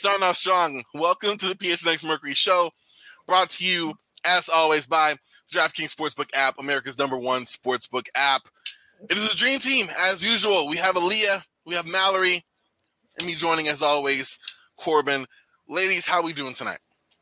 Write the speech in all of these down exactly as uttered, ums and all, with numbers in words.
starting off strong. Welcome to the P H N X Mercury Show, brought to you, as always, by DraftKings Sportsbook app, America's number one sportsbook app. It is a dream team, as usual. We have Aaliyah, we have Mallory, and me joining, as always, Corbin. Ladies, how are we doing tonight?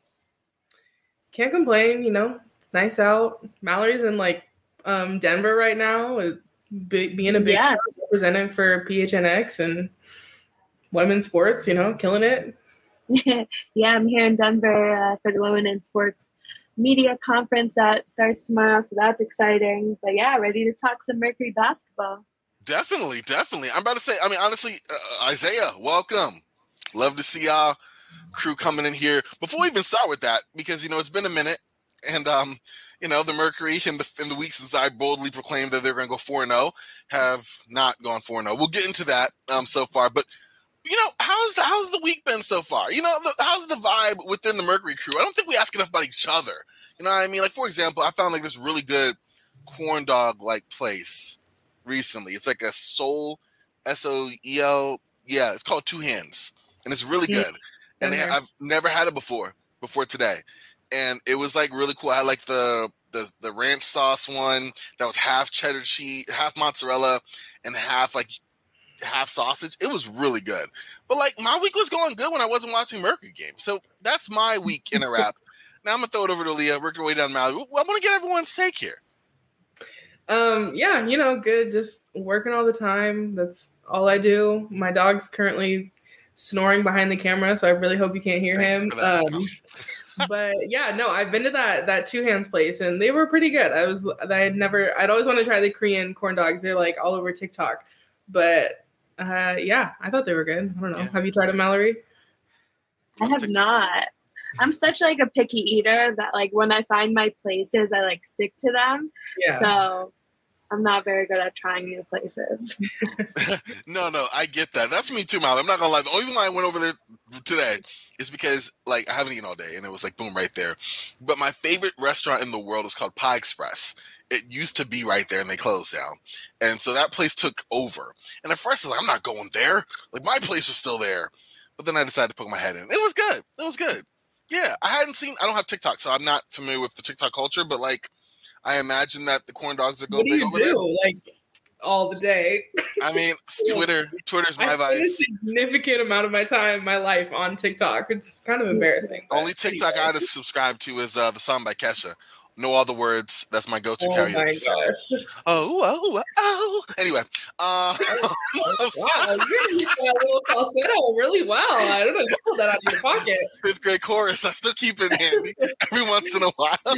Can't complain, you know. It's nice out. Mallory's in, like, um, Denver right now, with big, being a big yeah. representative for P H N X and women's sports, you know, killing it. Yeah, I'm here in Denver uh, for the Women in Sports Media Conference that starts tomorrow, so that's exciting. But yeah, ready to talk some Mercury basketball. Definitely, definitely. I'm about to say, I mean, honestly, uh, Isaiah, welcome. Love to see y'all crew coming in here. Before we even start with that, because, you know, it's been a minute, and, um, you know, the Mercury in the, in the week since I boldly proclaimed that they're going to go four and oh have not gone four and oh. We'll get into that um, so far, but you know, how's the how's the week been so far? You know, the, how's the vibe within the Mercury crew? I don't think we ask enough about each other. You know what I mean? Like, for example, I found like this really good corn dog like place recently. It's like a Soul, S O E L. Yeah, it's called Two Hands, and it's really good. Mm-hmm. And they, I've never had it before before today, and it was like really cool. I had like the the the ranch sauce one that was half cheddar cheese, half mozzarella, and half like. half sausage. It was really good. But like my week was going good when I wasn't watching Mercury games. So that's my week in a wrap. Now I'm gonna throw it over to Leah, work our way down Mallory. I want to get everyone's take here. Um, yeah, you know, good. Just working all the time. That's all I do. My dog's currently snoring behind the camera, so I really hope you can't hear him. Um, but yeah, no, I've been to that that Two Hands place, and they were pretty good. I was I had never I'd always want to try the Korean corn dogs. They're like all over TikTok, but. Uh, yeah, I thought they were good. I don't know. Yeah. Have you tried them, Mallory? I have not. I'm such like a picky eater that like when I find my places, I like stick to them. Yeah. So I'm not very good at trying new places. no, no, I get that. That's me too, Mallory. I'm not gonna lie. The only reason why I went over there today is because like I haven't eaten all day, and it was like boom right there. But my favorite restaurant in the world is called Pie Express. It used to be right there, and they closed down. And so that place took over. And at first, I was like, I'm not going there. Like, my place was still there. But then I decided to poke my head in. It was good. It was good. Yeah, I hadn't seen – I don't have TikTok, so I'm not familiar with the TikTok culture. But, like, I imagine that the corn dogs are going big over there. What do you do, like, all the day? I mean, Twitter. Twitter's my I vice. I spend a significant amount of my time, my life, on TikTok. It's kind of embarrassing. Only TikTok I had to subscribe to is uh, the song by Kesha. No other words. That's my go-to oh karaoke song. Oh, oh, oh. Anyway. Uh, wow, you're using that little falsetto really well. I don't know. You pulled that out of your pocket. Fifth grade chorus. I still keep it handy every once in a while.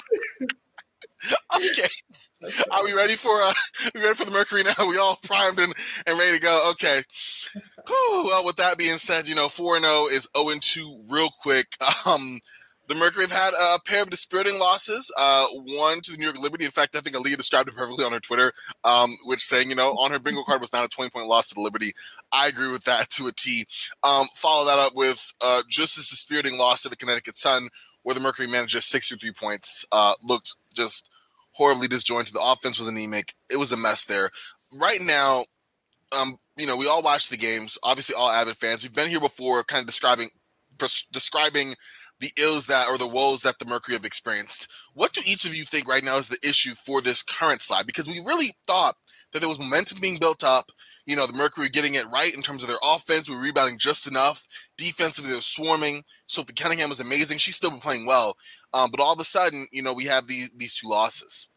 Okay. Are we ready for uh, we ready for the Mercury now? We all primed and, and ready to go. Okay. Whew. Well, with that being said, you know, four and oh is oh and two real quick. Um, The Mercury have had a pair of dispiriting losses, uh, one to the New York Liberty. In fact, I think Aaliyah described it perfectly on her Twitter, um, which saying, you know, on her bingo card was not a twenty-point loss to the Liberty. I agree with that to a T. Um, follow that up with uh, just as dispiriting loss to the Connecticut Sun, where the Mercury managed just sixty-three points, uh, looked just horribly disjointed. The offense was anemic. It was a mess there. Right now, um, you know, we all watch the games, obviously all avid fans. We've been here before kind of describing pres- describing the ills that or the woes that the Mercury have experienced. What do each of you think right now is the issue for this current slide? Because we really thought that there was momentum being built up. You know, the Mercury getting it right in terms of their offense. We were rebounding just enough. Defensively, they were swarming. Sophie Cunningham was amazing. She's still been playing well. Um, but all of a sudden, you know, we have these these two losses.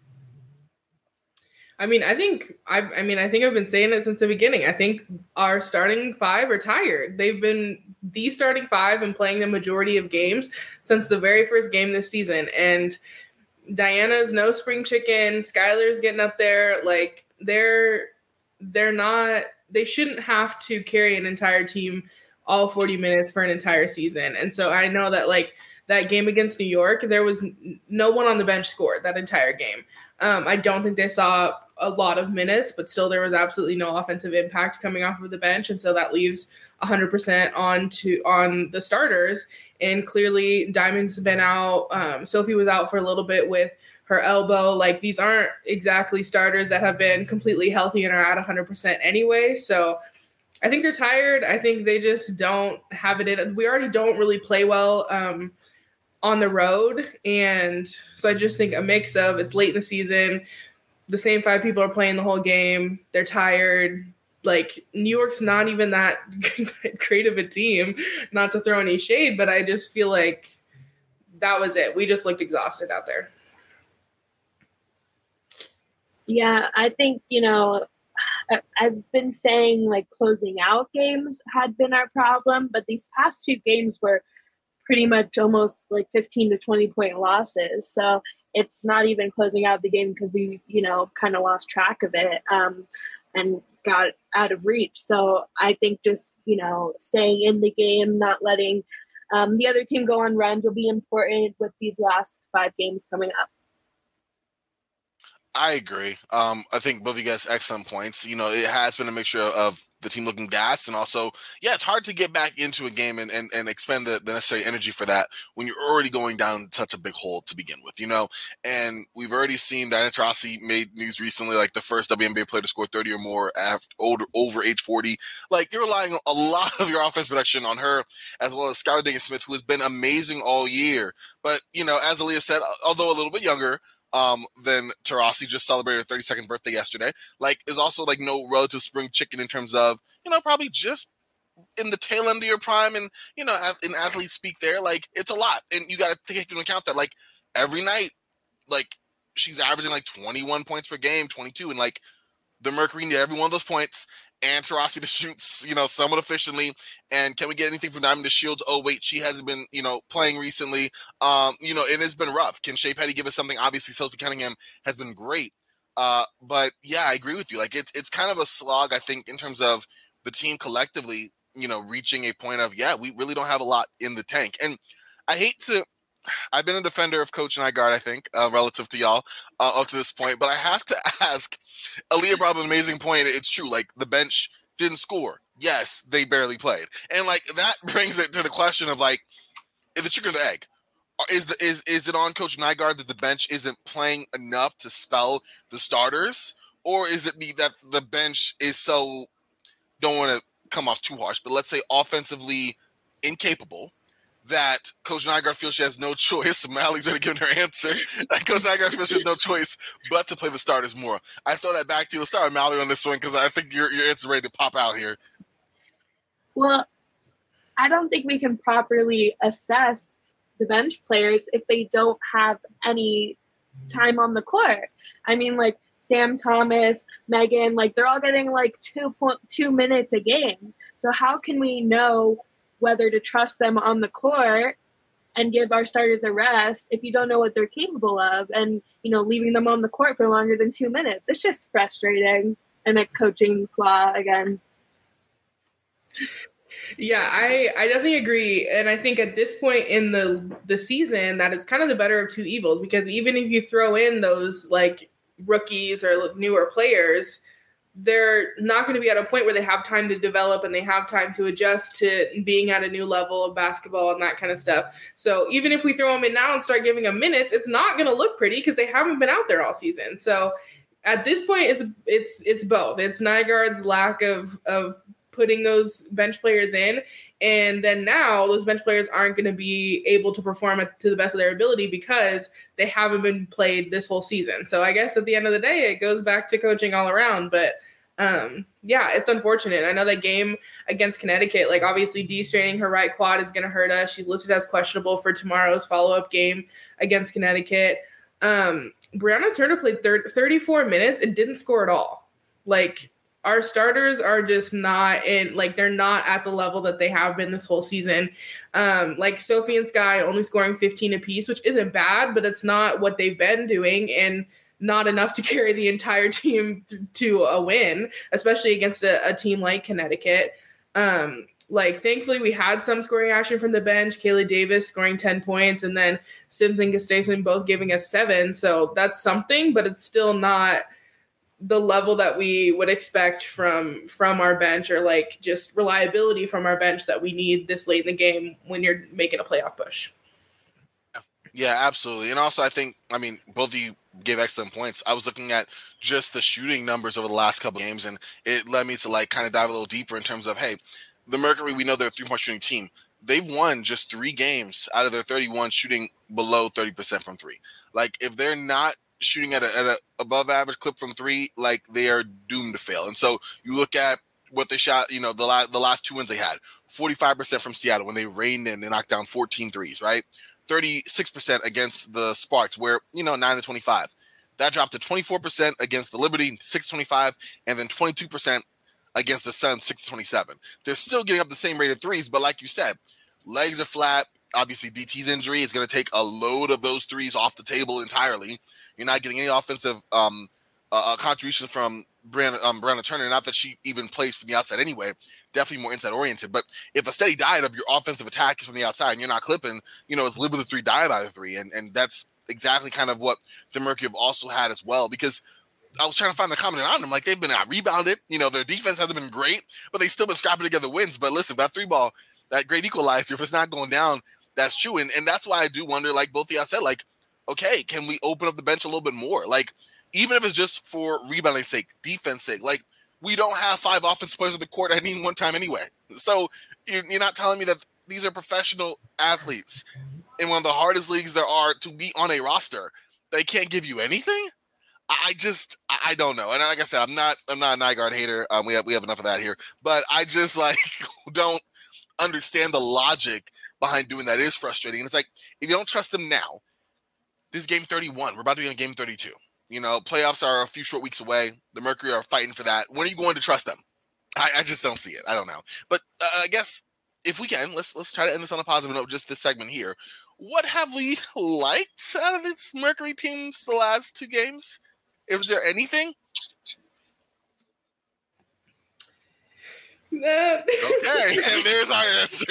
I mean, I think I I mean, I think I've been saying it since the beginning. I think our starting five are tired. They've been the starting five and playing the majority of games since the very first game this season. And Diana's no spring chicken. Skylar's getting up there. Like they're they're not they shouldn't have to carry an entire team all forty minutes for an entire season. And so I know that like that game against New York, there was no one on the bench scored that entire game. Um, I don't think they saw a lot of minutes, but still there was absolutely no offensive impact coming off of the bench. And so that leaves one hundred percent on to on the starters. And clearly Diamond's been out. Um, Sophie was out for a little bit with her elbow. Like these aren't exactly starters that have been completely healthy and are at one hundred percent anyway. So I think they're tired. I think they just don't have it in. We already don't really play well um, on the road. And so I just think a mix of it's late in the season. The same five people are playing the whole game. They're tired. Like, New York's not even that great of a team, not to throw any shade, but I just feel like that was it. We just looked exhausted out there. Yeah, I think, you know, I've been saying like closing out games had been our problem, but these past two games were pretty much almost like fifteen to twenty point losses. So it's not even closing out the game because we, you know, kind of lost track of it um, and got out of reach. So I think just, you know, staying in the game, not letting um, the other team go on runs will be important with these last five games coming up. I agree. Um, I think both of you guys excellent points. You know, it has been a mixture of the team looking gassed and also, yeah, it's hard to get back into a game and, and, and expend the, the necessary energy for that when you're already going down such a big hole to begin with, you know? And we've already seen Diana Taurasi made news recently, like the first W N B A player to score thirty or more after older, over age forty. Like, you're relying a lot of your offense production on her, as well as Skylar Diggins-Smith, who has been amazing all year. But, you know, as Aaliyah said, although a little bit younger, Um, then Taurasi just celebrated her thirty-second birthday yesterday. Like, is also like no relative spring chicken in terms of, you know, probably just in the tail end of your prime and, you know, in athlete speak there, like, it's a lot. And you got to take into account that, like, every night, like, she's averaging like twenty-one points per game, twenty-two, and like the Mercury need every one of those points. And Taurasi to shoot, you know, somewhat efficiently. And can we get anything from Diamond DeShields? Oh, wait, she hasn't been, you know, playing recently. Um, you know, it has been rough. Can Shea Petty give us something? Obviously, Sophie Cunningham has been great. Uh, but, yeah, I agree with you. Like, it's it's kind of a slog, I think, in terms of the team collectively, you know, reaching a point of, yeah, we really don't have a lot in the tank. And I hate to – I've been a defender of Coach Nygaard, I think, uh, relative to y'all uh, up to this point. But I have to ask – Aaliyah brought up an amazing point. It's true. Like, the bench didn't score. Yes, they barely played. And, like, that brings it to the question of, like, is the chicken or the egg? Is the is is it on Coach Nygaard that the bench isn't playing enough to spell the starters? Or is it me that the bench is so, don't want to come off too harsh, but let's say offensively incapable, that Coach Nygaard feels she has no choice. Mally's already given her answer. Coach Nygaard feels she has no choice but to play the starters more. I throw that back to you. Let's start with Mally on this one because I think your your answer is ready to pop out here. Well, I don't think we can properly assess the bench players if they don't have any time on the court. I mean, like Sam Thomas, Megan, like they're all getting like two point two minutes a game. So how can we know whether to trust them on the court and give our starters a rest if you don't know what they're capable of and, you know, leaving them on the court for longer than two minutes. It's just frustrating and a coaching flaw again. Yeah, I, I definitely agree. And I think at this point in the the season that it's kind of the better of two evils because even if you throw in those like rookies or newer players, they're not going to be at a point where they have time to develop and they have time to adjust to being at a new level of basketball and that kind of stuff. So even if we throw them in now and start giving them minutes, it's not going to look pretty because they haven't been out there all season. So at this point, it's it's it's both. It's Nygaard's lack of of putting those bench players in, and then now those bench players aren't going to be able to perform to the best of their ability because they haven't been played this whole season. So I guess at the end of the day, it goes back to coaching all around. But um, yeah, it's unfortunate. I know that game against Connecticut, like obviously de-straining her right quad is going to hurt us. She's listed as questionable for tomorrow's follow-up game against Connecticut. Um, Brianna Turner played thirty-four minutes and didn't score at all. Like, our starters are just not in, like, they're not at the level that they have been this whole season. Um, like Sophie and Sky only scoring fifteen apiece, which isn't bad, but it's not what they've been doing and not enough to carry the entire team th- to a win, especially against a, a team like Connecticut. Um, like, thankfully, we had some scoring action from the bench. Kayla Davis scoring ten points, and then Sims and Gustafson both giving us seven. So that's something, but it's still not the level that we would expect from from our bench or like just reliability from our bench that we need this late in the game when you're making a playoff push. Yeah, absolutely. And also I think, I mean, both of you gave excellent points. I was looking at just the shooting numbers over the last couple of games, and it led me to like kind of dive a little deeper in terms of, hey, the Mercury, we know they're a three-point shooting team. They've won just three games out of their thirty-one shooting below thirty percent from three. Like, if they're not shooting at a, at a above average clip from three, like, they are doomed to fail. And so you look at what they shot, you know, the, la- the last two wins they had, forty-five percent from Seattle when they reined in, they knocked down fourteen threes, right? thirty-six percent against the Sparks, where, you know, nine to twenty-five. That dropped to twenty-four percent against the Liberty, six to twenty-five, and then twenty-two percent against the Suns, six to twenty-seven. They're still getting up the same rate of threes, but like you said, legs are flat. Obviously, D T's injury is going to take a load of those threes off the table entirely. You're not getting any offensive um, uh, contribution from Brianna, um, Brianna Turner. Not that she even plays from the outside anyway. Definitely more inside oriented. But if a steady diet of your offensive attack is from the outside and you're not clipping, you know, it's live with a three, die by the three. And, and that's exactly kind of what the Mercury have also had as well, because I was trying to find the common on them. Like, they've been out rebounded. You know, their defense hasn't been great, but they've still been scrapping together wins. But listen, that three ball, that great equalizer, if it's not going down, that's true. And, and that's why I do wonder, like both of y'all said, like, okay, can we open up the bench a little bit more? Like, even if it's just for rebounding sake, defense sake, like, we don't have five offensive players on the court at any one time anyway. So you're, you're not telling me that these are professional athletes in one of the hardest leagues there are to be on a roster. They can't give you anything. I just, I don't know. And like I said, I'm not, I'm not a Nygaard hater. Um, we have, we have enough of that here, but I just like don't understand the logic behind doing that. It is frustrating. And it's like, if you don't trust them now, this is game thirty-one. We're about to be on game thirty-two. You know, playoffs are a few short weeks away. The Mercury are fighting for that. When are you going to trust them? I, I just don't see it. I don't know. But uh, I guess if we can, let's let's try to end this on a positive note, just this segment here. What have we liked out of this Mercury teams the last two games? Is there anything? No. Okay, and there's our answer.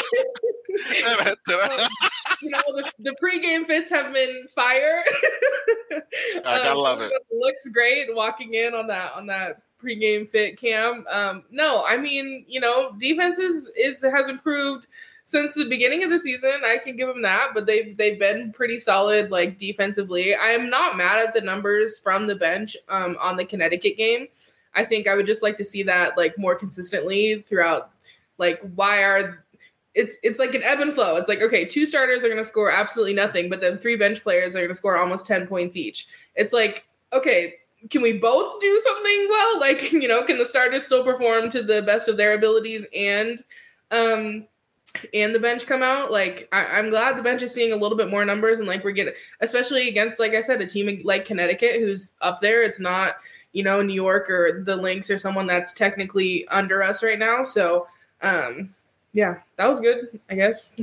um, you know, the, the pregame fits have been fire. I gotta um, love it. Looks great walking in on that on that pregame fit cam. Um, no, I mean, you know, defense is, is has improved since the beginning of the season. I can give them that, but they've they've been pretty solid, like, defensively. I am not mad at the numbers from the bench um, on the Connecticut game. I think I would just like to see that, like, more consistently throughout. Like, why are it's it's like an ebb and flow. It's like, okay, two starters are going to score absolutely nothing, but then three bench players are going to score almost ten points each. It's like, okay, can we both do something well? Like, you know, can the starters still perform to the best of their abilities and um and the bench come out? Like, I, I'm glad the bench is seeing a little bit more numbers, and like we're getting, especially against, like I said, a team like Connecticut who's up there. It's not, you know, New York or the Lynx or someone that's technically under us right now. So, um, yeah, that was good, I guess.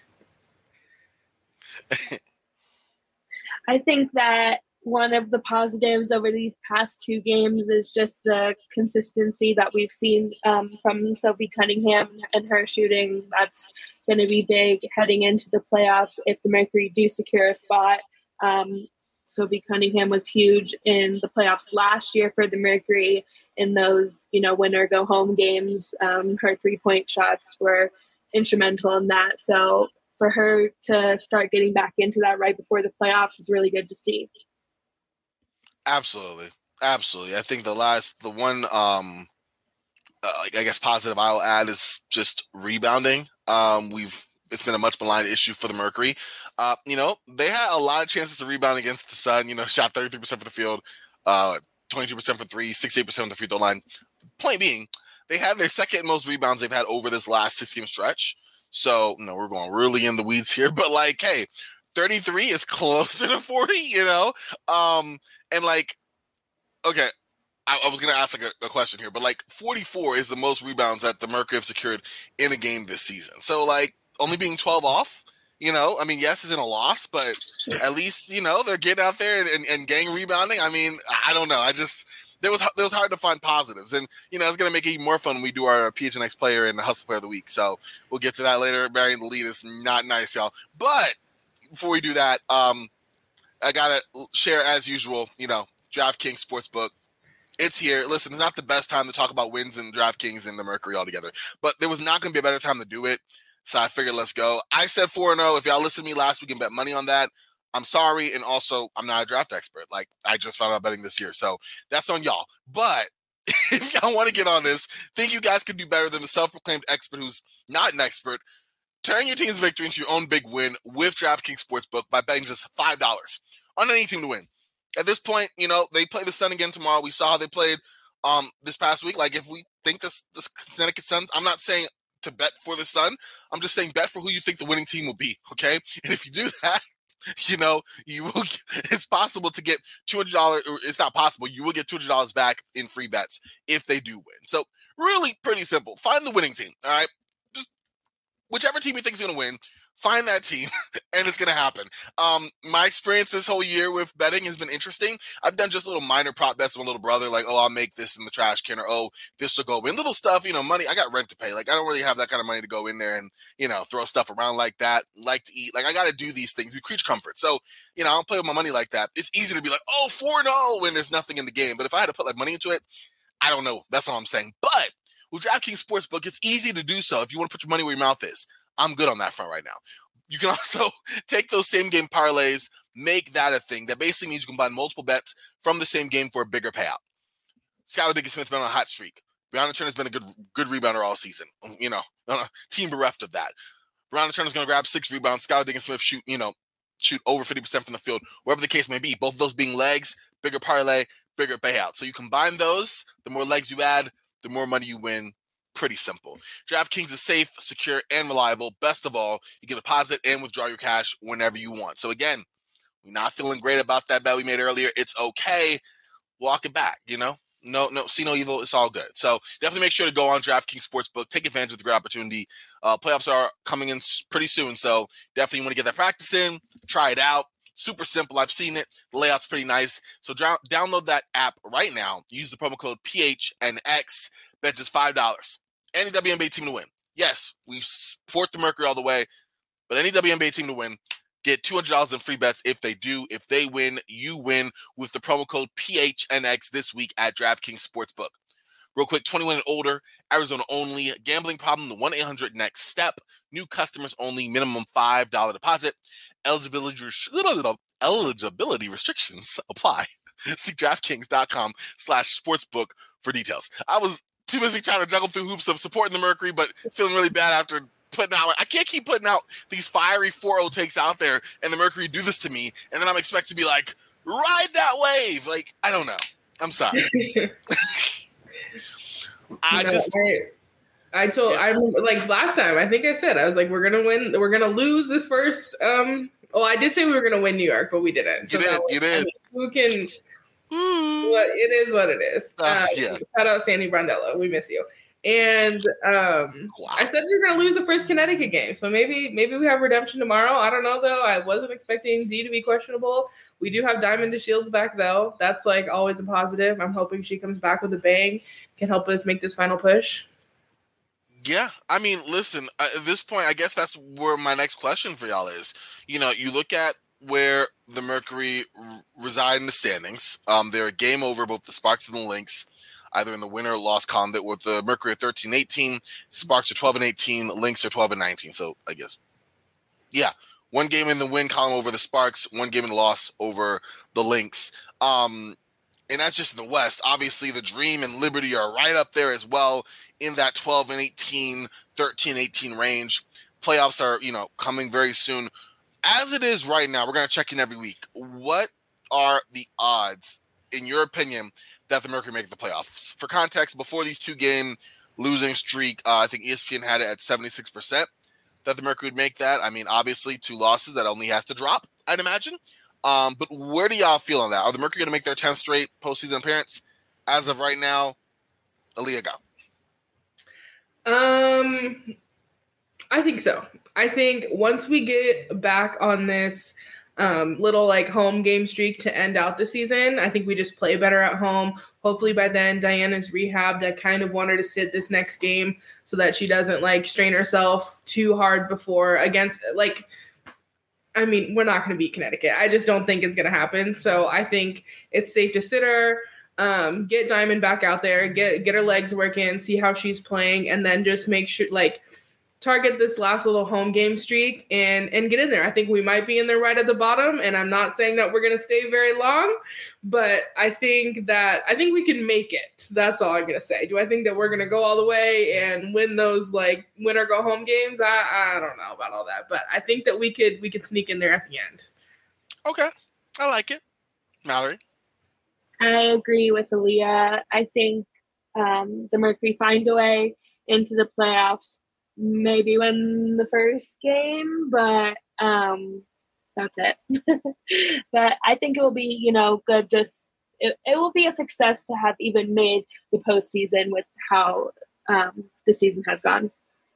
I think that one of the positives over these past two games is just the consistency that we've seen um, from Sophie Cunningham and her shooting. That's going to be big heading into the playoffs if the Mercury do secure a spot. Um, Sophie Cunningham was huge in the playoffs last year for the Mercury in those, you know, winner go home games. Um, her three-point shots were instrumental in that. So for her to start getting back into that right before the playoffs is really good to see. Absolutely. Absolutely. I think the last, the one, um, uh, I guess positive I'll add is just rebounding. Um, we've, it's been a much maligned issue for the Mercury. Uh, you know, they had a lot of chances to rebound against the Sun, you know, shot thirty-three percent for the field, uh, twenty-two percent for three, sixty-eight percent on the free throw line. Point being, they had their second most rebounds they've had over this last six game stretch. So, you know, we're going really in the weeds here, but like, hey, thirty-three is closer to forty, you know? Um, and like, okay, I, I was going to ask like a, a question here, but like forty-four is the most rebounds that the Mercury have secured in a game this season. So like only being twelve off, you know, I mean, yes, it's in a loss, but at least, you know, they're getting out there and, and, and gang rebounding. I mean, I don't know. I just, there was, there was hard to find positives, and, you know, it's going to make it even more fun when we do our P H N X player and the Hustle Player of the Week. So we'll get to that later. Burying the lead is not nice, y'all. But before we do that, um, I got to share, as usual, you know, DraftKings Sportsbook. It's here. Listen, it's not the best time to talk about wins in DraftKings and the Mercury altogether, but there was not going to be a better time to do it. So I figured, let's go. I said four and oh. If y'all listened to me last week and bet money on that, I'm sorry, and also I'm not a draft expert. Like, I just found out betting this year, so that's on y'all. But if y'all want to get on this, think you guys can do better than the self-proclaimed expert who's not an expert. Turn your team's victory into your own big win with DraftKings Sportsbook by betting just five dollars on any team to win. At this point, you know, they play the Sun again tomorrow. We saw how they played um, this past week. Like, if we think this, this Connecticut Suns, I'm not saying to bet for the Sun. I'm just saying bet for who you think the winning team will be, okay? And if you do that, you know, you will. It's possible to get two hundred dollars. Or it's not possible. You will get two hundred dollars back in free bets if they do win. So really pretty simple. Find the winning team, all right? Just whichever team you think is going to win, find that team, and it's going to happen. Um, my experience this whole year with betting has been interesting. I've done just little minor prop bets with my little brother, like, oh, I'll make this in the trash can, or, oh, this will go in. Little stuff, you know, money. I got rent to pay. Like, I don't really have that kind of money to go in there and, you know, throw stuff around like that, like to eat. Like, I got to do these things. You create comfort. So, you know, I don't play with my money like that. It's easy to be like, oh, four and oh when there's nothing in the game. But if I had to put, like, money into it, I don't know. That's all I'm saying. But with DraftKings Sportsbook, it's easy to do so if you want to put your money where your mouth is. I'm good on that front right now. You can also take those same game parlays, make that a thing. That basically means you can buy multiple bets from the same game for a bigger payout. Skylar Diggins-Smith's been on a hot streak. Brianna Turner's been a good good rebounder all season. You know, team bereft of that. Brianna Turner's going to grab six rebounds. Skylar Diggins-Smith shoot, you know, shoot over fifty percent from the field, wherever the case may be. Both of those being legs, bigger parlay, bigger payout. So you combine those, the more legs you add, the more money you win. Pretty simple. DraftKings is safe, secure, and reliable. Best of all, you can deposit and withdraw your cash whenever you want. So again, we're not feeling great about that bet we made earlier. It's okay. Walk it back, you know? No, no, see no evil. It's all good. So definitely make sure to go on DraftKings Sportsbook. Take advantage of the great opportunity. Uh, playoffs are coming in pretty soon, so definitely want to get that practice in. Try it out. Super simple. I've seen it. The layout's pretty nice. So dr- download that app right now. Use the promo code P H N X. Bet just five dollars. Any W N B A team to win. Yes, we support the Mercury all the way, but any W N B A team to win, get two hundred dollars in free bets if they do. If they win, you win with the promo code P H N X this week at DraftKings Sportsbook. Real quick, twenty-one and older, Arizona only. Gambling problem, the one eight hundred next step. New customers only, minimum five dollars deposit. Eligibility, eligibility restrictions apply. See DraftKings.com slash sportsbook for details. I was too busy trying to juggle through hoops of supporting the Mercury, but feeling really bad after putting out. I can't keep putting out these fiery four oh takes out there, and the Mercury do this to me, and then I'm expected to be like, ride that wave. Like, I don't know. I'm sorry. I no, just. I, I told. Yeah. I like last time. I think I said I was like, we're gonna win. We're gonna lose this first. Um. Oh, I did say we were gonna win New York, but we didn't. So you did. You did. I mean, who can? What it is, what it is. Uh, uh, yeah. Shout out Sandy Brondello. We miss you. And um, wow. I said we were gonna lose the first Connecticut game, so maybe maybe we have redemption tomorrow. I don't know though. I wasn't expecting D to be questionable. We do have Diamond DeShields back though. That's like always a positive. I'm hoping she comes back with a bang, can help us make this final push. Yeah, I mean, listen. Uh, at this point, I guess that's where my next question for y'all is. You know, you look at where the Mercury r- reside in the standings. Um, they're a game over both the Sparks and the Lynx, either in the winner or loss column. That with the Mercury at thirteen eighteen, Sparks are twelve and eighteen, Lynx are twelve and nineteen. So I guess, yeah, one game in the win column over the Sparks, one game in the loss over the Lynx. Um, and that's just in the West. Obviously, the Dream and Liberty are right up there as well in that twelve and eighteen, thirteen eighteen range. Playoffs are, you know, coming very soon. As it is right now, we're going to check in every week. What are the odds, in your opinion, that the Mercury make the playoffs? For context, before these two-game losing streak, uh, I think E S P N had it at seventy-six percent that the Mercury would make that. I mean, obviously, two losses, that only has to drop, I'd imagine. Um, but where do y'all feel on that? Are the Mercury going to make their tenth straight postseason appearance? As of right now, Aaliyah, go. Um, I think so. I think once we get back on this um, little like home game streak to end out the season, I think we just play better at home. Hopefully by then Diana's rehabbed. I kind of want her to sit this next game so that she doesn't like strain herself too hard before against like, I mean, we're not going to beat Connecticut. I just don't think it's going to happen. So I think it's safe to sit her, um, get Diamond back out there, get, get her legs working, see how she's playing, and then just make sure like, target this last little home game streak and and get in there. I think we might be in there right at the bottom, and I'm not saying that we're going to stay very long, but I think that I think we can make it. That's all I'm going to say. Do I think that we're going to go all the way and win those like win or go home games? I I don't know about all that, but I think that we could we could sneak in there at the end. Okay, I like it, Mallory. I agree with Aaliyah. I think um, the Mercury find a way into the playoffs. Maybe win the first game, but um, that's it. But I think it will be, you know, good. Just it, it will be a success to have even made the postseason with how um, the season has gone.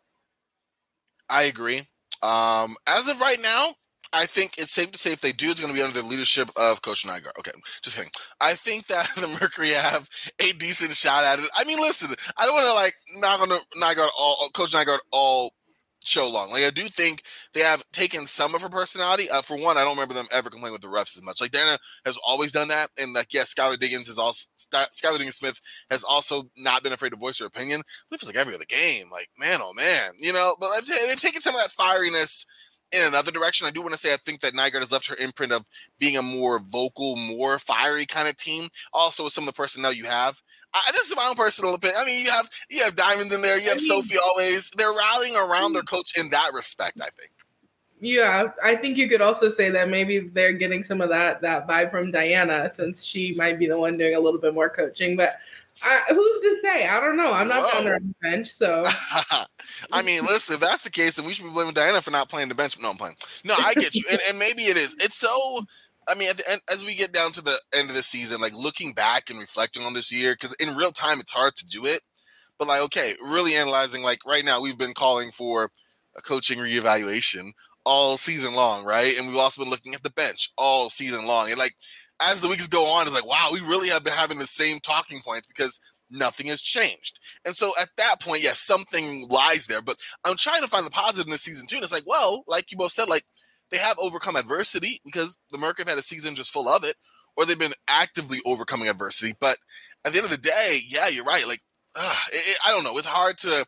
I agree. Um, as of right now, I think it's safe to say if they do, it's going to be under the leadership of Coach Nygaard. Okay, just kidding. I think that the Mercury have a decent shot at it. I mean, listen, I don't want to like knock on the Nygaard all, Coach Nygaard all show long. Like I do think they have taken some of her personality. Uh, for one, I don't remember them ever complaining with the refs as much. Like Dana has always done that, and like yes, Skylar Diggins is also Skylar Diggins Smith has also not been afraid to voice her opinion. But it feels like every other game, like man, oh man, you know. But they've taken some of that fieriness in another direction. I do want to say I think that Nygaard has left her imprint of being a more vocal, more fiery kind of team. Also, with some of the personnel you have. I, this is my own personal opinion. I mean, you have you have Diamonds in there. You have I mean, Sophie always. They're rallying around their coach in that respect, I think. Yeah, I think you could also say that maybe they're getting some of that that vibe from Diana, since she might be the one doing a little bit more coaching. But I, who's to say? I don't know. I'm not on the bench, so. I mean, listen, if that's the case, then we should be blaming Diana for not playing the bench. No, I'm playing. No, I get you. and, and maybe it is. It's so, I mean, at the end, as we get down to the end of the season, like looking back and reflecting on this year, because in real time, it's hard to do it. But like, okay, really analyzing, like right now, we've been calling for a coaching reevaluation all season long, right? And we've also been looking at the bench all season long. And like, as the weeks go on, it's like, wow, we really have been having the same talking points because nothing has changed. And so at that point, yes, something lies there. But I'm trying to find the positive in this season too. And it's like, well, like you both said, like they have overcome adversity because the Merc have had a season just full of it, or they've been actively overcoming adversity. But at the end of the day, yeah, you're right. Like, uh, it, it, I don't know. It's hard to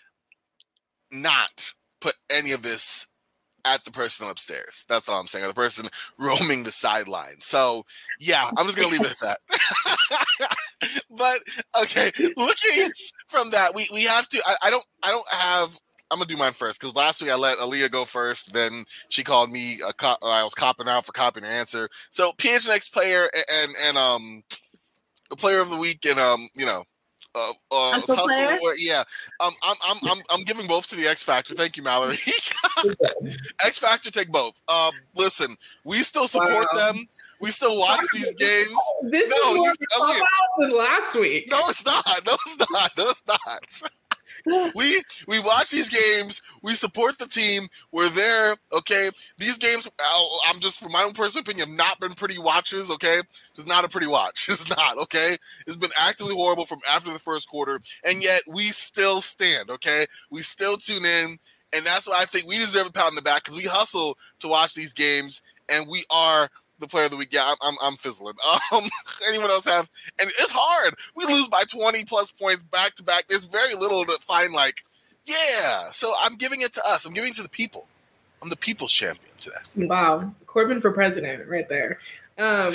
not put any of this at the person upstairs. That's all I'm saying. Or the person roaming the sideline. So, yeah, I'm just going to leave it at that. But, okay, looking from that, we, we have to, I, I don't, I don't have, I'm going to do mine first because last week I let Aaliyah go first. Then she called me, a cop, I was copping out for copying her answer. So, P H N X player and, and, um, the player of the week and, um, you know, Uh, uh, hustle hustle, yeah, um, I'm, I'm, I'm, I'm giving both to the X Factor. Thank you, Mallory. X Factor, take both. Um, listen, we still support wow. them. We still watch these games. This no, is more you, you, than last week. No, it's not. No, it's not. No, it's not. we we watch these games. We support the team. We're there. Okay, these games. I'm just, from my own personal opinion, have not been pretty watches. Okay, it's not a pretty watch. It's not. Okay, it's been actively horrible from after the first quarter, and yet we still stand. Okay, we still tune in, and that's why I think we deserve a pat on the back because we hustle to watch these games, and we are the player of the week. Yeah, I'm, I'm, I'm fizzling. Um, anyone else have? And it's hard. We lose by twenty plus points back to back. There's very little to find. Like, yeah. So I'm giving it to us. I'm giving it to the people. I'm the people's champion today. Wow, Corbin for president, right there. Um,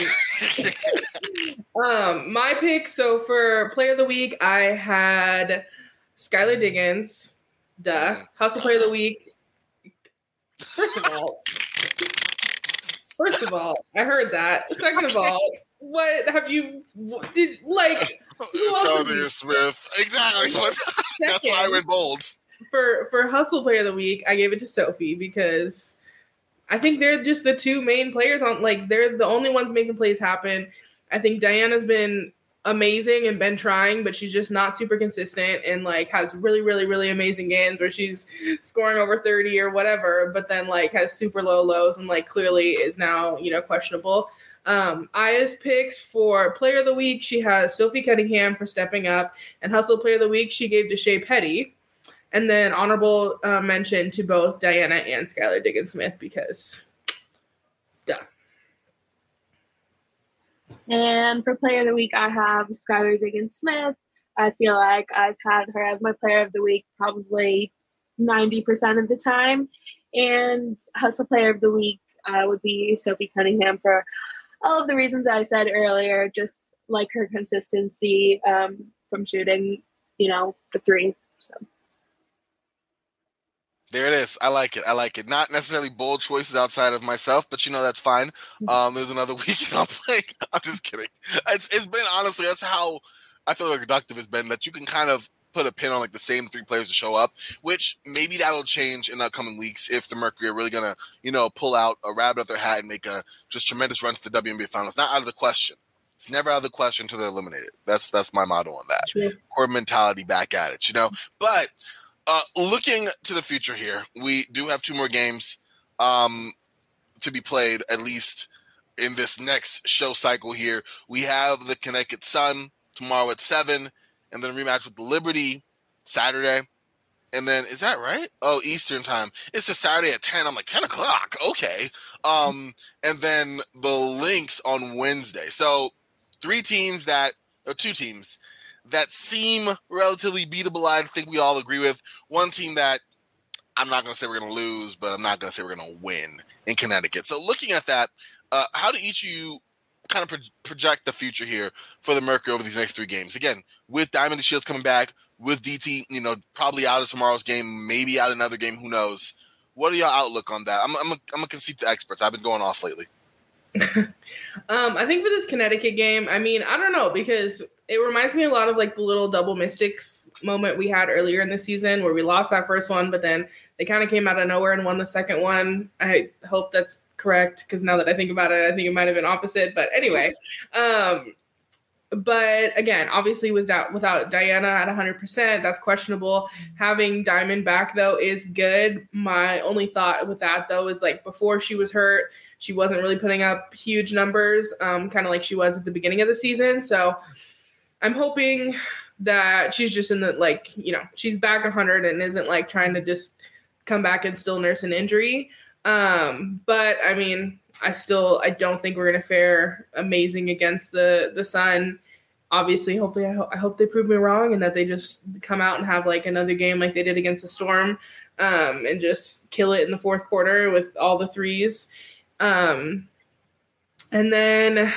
um, my pick. So for player of the week, I had Skylar Diggins. Duh. Hustle player of the week. First of all. First of all, I heard that. Second of all, what have you did like? Skylar Smith, exactly. That's why I went bold. For for Hustle Player of the Week, I gave it to Sophie because I think they're just the two main players on. Like they're the only ones making plays happen. I think Diana's been amazing and been trying, but she's just not super consistent and like has really, really, really amazing games where she's scoring over thirty or whatever, but then like has super low lows and like clearly is now, you know, questionable. Um, Aya's picks for player of the week, she has Sophie Cunningham for stepping up, and Hustle player of the week, she gave to Shea Petty. And then honorable uh, mention to both Diana and Skylar Diggins Smith because duh. And for player of the week, I have Skylar Diggins Smith. I feel like I've had her as my player of the week probably ninety percent of the time. And Hustle Player of the Week uh, would be Sophie Cunningham for all of the reasons I said earlier, just like her consistency um, from shooting, you know, the three. So. There it is. I like it. I like it. Not necessarily bold choices outside of myself, but you know that's fine. Um, there's another week I'm playing. I'm just kidding. It's it's been honestly that's how I feel like productive it's been. That you can kind of put a pin on like the same three players to show up, which maybe that'll change in the upcoming weeks if the Mercury are really gonna you know pull out a rabbit out their hat and make a just tremendous run to the W N B A Finals. Not out of the question. It's never out of the question until they're eliminated. That's that's my motto on that. Sure. Core mentality back at it, you know. But Uh, looking to the future here, we do have two more games um, to be played, at least in this next show cycle here. We have the Connecticut Sun tomorrow at seven, and then a rematch with the Liberty Saturday. And then, is that right? Oh, Eastern time. It's a Saturday at ten. I'm like, ten o'clock. Okay. Um, and then the Lynx on Wednesday. So three teams that, or two teams that seem relatively beatable, I think we all agree with. One team that I'm not going to say we're going to lose, but I'm not going to say we're going to win in Connecticut. So looking at that, uh, how do each of you kind of pro- project the future here for the Mercury over these next three games? Again, with Diamond and Shields coming back, with D T, you know, probably out of tomorrow's game, maybe out another game, who knows? What are your outlook on that? I'm I'm a, I'm a concede to experts. I've been going off lately. um, I think for this Connecticut game, I mean, I don't know, because it reminds me a lot of like the little double Mystics moment we had earlier in the season where we lost that first one, but then they kind of came out of nowhere and won the second one. I hope that's correct, because now that I think about it, I think it might have been opposite. But anyway, um, but again, obviously without without Diana at one hundred percent, that's questionable. Having Diamond back, though, is good. My only thought with that, though, is like before she was hurt, she wasn't really putting up huge numbers, um, kind of like she was at the beginning of the season. So I'm hoping that she's just in the, like, you know, she's back one hundred and isn't like trying to just come back and still nurse an injury. Um, but I mean, I still, I don't think we're going to fare amazing against the, the Sun. Obviously, hopefully, I, ho- I hope they prove me wrong and that they just come out and have like another game like they did against the Storm, um, and just kill it in the fourth quarter with all the threes. Um, and then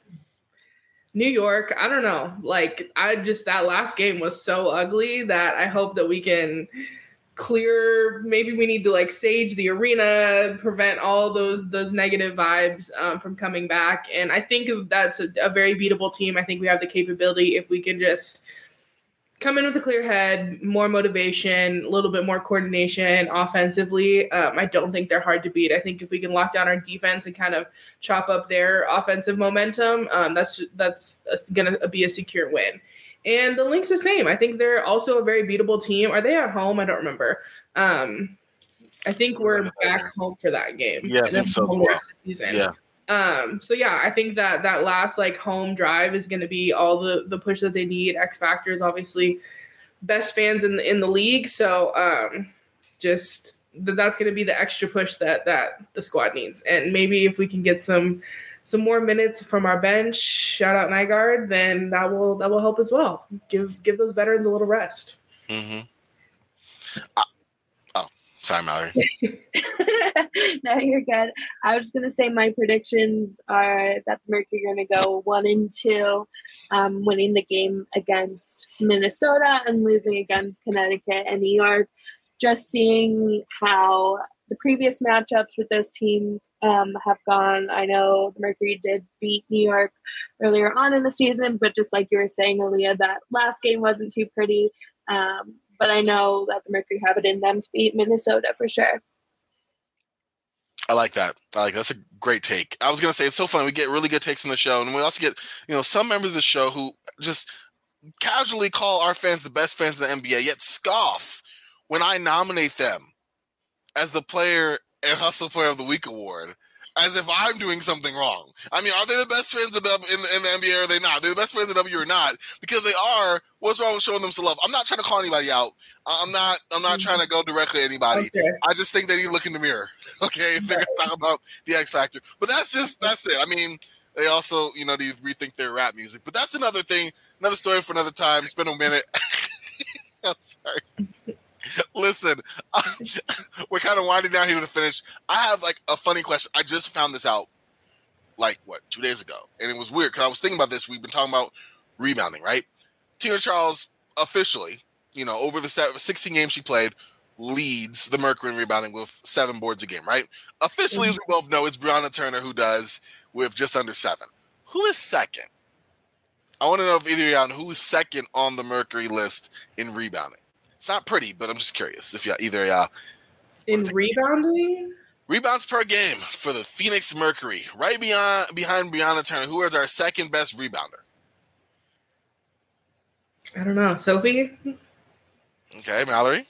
New York, I don't know. Like, I just, that last game was so ugly that I hope that we can clear, maybe we need to like sage the arena, prevent all those those negative vibes um, from coming back. And I think that's a, a very beatable team. I think we have the capability if we can just come in with a clear head, more motivation, a little bit more coordination offensively. Um, I don't think they're hard to beat. I think if we can lock down our defense and kind of chop up their offensive momentum, um, that's that's going to be a secure win. And the Lynx the same. I think they're also a very beatable team. Are they at home? I don't remember. Um, I think we're back home for that game. Yeah, I think so as well. Season. Yeah. Um, so yeah, I think that that last like home drive is going to be all the, the push that they need. X Factor is obviously best fans in the, in the league. So um, just that's going to be the extra push that, that the squad needs. And maybe if we can get some, some more minutes from our bench, shout out Nygaard, then that will, that will help as well. Give, give those veterans a little rest. Mm-hmm. Uh, oh, sorry, Mallory. No, you're good. I was going to say my predictions are that the Mercury are going to go one and two, um, winning the game against Minnesota and losing against Connecticut and New York. Just seeing how the previous matchups with those teams um, have gone. I know the Mercury did beat New York earlier on in the season, but just like you were saying, Aaliyah, that last game wasn't too pretty. Um, but I know that the Mercury have it in them to beat Minnesota for sure. I like that. I like that's a great take. I was gonna say it's so fun. We get really good takes on the show, and we also get you know some members of the show who just casually call our fans the best fans in the N B A, yet scoff when I nominate them as the player and Hustle Player of the Week award, as if I'm doing something wrong. I mean, are they the best fans in the, in the, in the N B A or are they not? They're the best fans in the W or not? Because they are. What's wrong with showing them some love? I'm not trying to call anybody out. I'm not I'm not mm-hmm. trying to go directly at anybody. Okay. I just think they need to look in the mirror, okay, if they're going to talk about the X Factor. But that's just, that's it. I mean, they also, you know, need to rethink their rap music. But that's another thing, another story for another time. It's been a minute. I'm sorry. Listen, uh, we're kind of winding down here to the finish. I have like a funny question. I just found this out like, what, two days ago. And it was weird because I was thinking about this. We've been talking about rebounding, right? Tina Charles officially, you know, over the sixteen games she played, leads the Mercury in rebounding with seven boards a game, right? Officially, mm-hmm. as we both know, it's Brianna Turner who does with just under seven. Who is second? I want to know if either of y'all know who is second on the Mercury list in rebounding. It's not pretty, but I'm just curious if y'all, either of y'all. In rebounding? Rebounds per game for the Phoenix Mercury. Right beyond behind Brianna Turner, who is our second best rebounder? I don't know. Sophie? Okay, Mallory?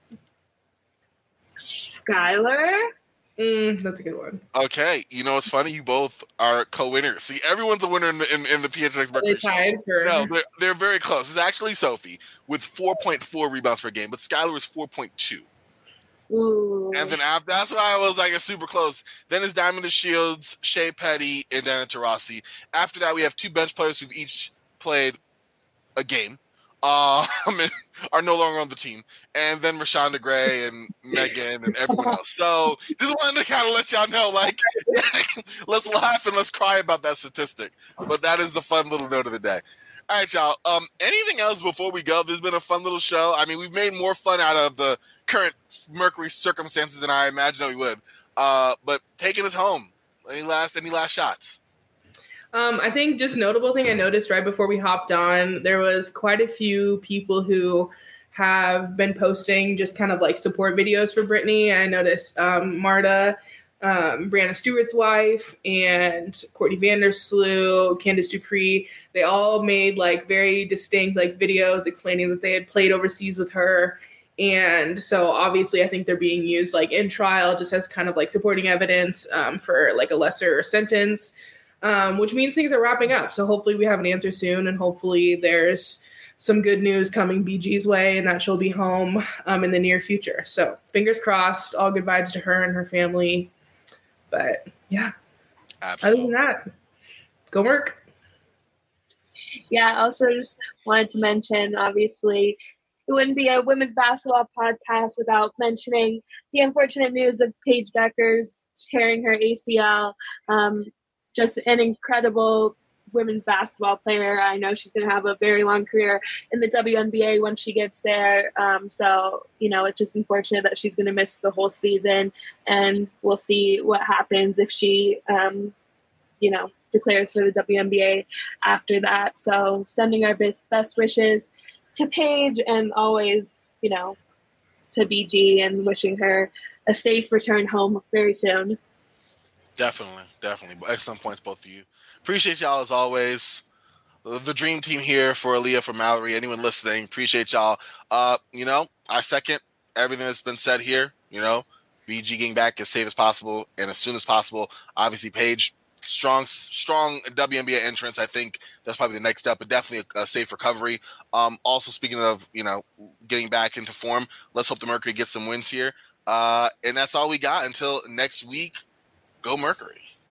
Skylar? Mm, that's a good one. Okay, you know what's funny? You both are co-winners. See, everyone's a winner in the, in, in the P H N X Mercury. They tied for... No, they're, they're very close. It's actually Sophie with four point four rebounds per game, but Skylar is four point two. Ooh. And then after, that's why I was like, it's super close. Then it's Diamond Shields, Shea Petty, and Dana Taurasi. After that, we have two bench players who've each played a game. Uh, are no longer on the team, and then Rashonda Gray and Megan and everyone else. So just wanted to kind of let y'all know, like, let's laugh and let's cry about that statistic. But that is the fun little note of the day. All right, y'all. Um, anything else before we go? There's been a fun little show. I mean, we've made more fun out of the current Mercury circumstances than I imagined we would. Uh, but taking us home. Any last any last shots? Um, I think just notable thing I noticed right before we hopped on, there was quite a few people who have been posting just kind of like support videos for Brittany. I noticed um, Marta, um, Brianna Stewart's wife, and Courtney Vandersloot, Candace Dupree. They all made like very distinct like videos explaining that they had played overseas with her. And so obviously I think they're being used like in trial just as kind of like supporting evidence um, for like a lesser sentence. Um, which means things are wrapping up. So hopefully we have an answer soon, and hopefully there's some good news coming B G's way and that she'll be home um, in the near future. So fingers crossed, all good vibes to her and her family. But yeah, absolutely. Other than that, go work. Yeah, I also just wanted to mention, obviously, it wouldn't be a women's basketball podcast without mentioning the unfortunate news of Paige Bueckers tearing her A C L. Um, Just an incredible women's basketball player. I know she's going to have a very long career in the W N B A once she gets there. Um, so, you know, it's just unfortunate that she's going to miss the whole season. And we'll see what happens if she, um, you know, declares for the W N B A after that. So sending our best, best wishes to Paige, and always, you know, to B G, and wishing her a safe return home very soon. Definitely, definitely. Excellent points, both of you. Appreciate y'all as always. The dream team here for Aaliyah, for Mallory, anyone listening, appreciate y'all. Uh, you know, I second everything that's been said here. You know, B G getting back as safe as possible and as soon as possible. Obviously, Paige, strong, strong W N B A entrance. I think that's probably the next step, but definitely a, a safe recovery. Um, also, speaking of, you know, getting back into form, let's hope the Mercury gets some wins here. Uh, and that's all we got until next week. Go Mercury.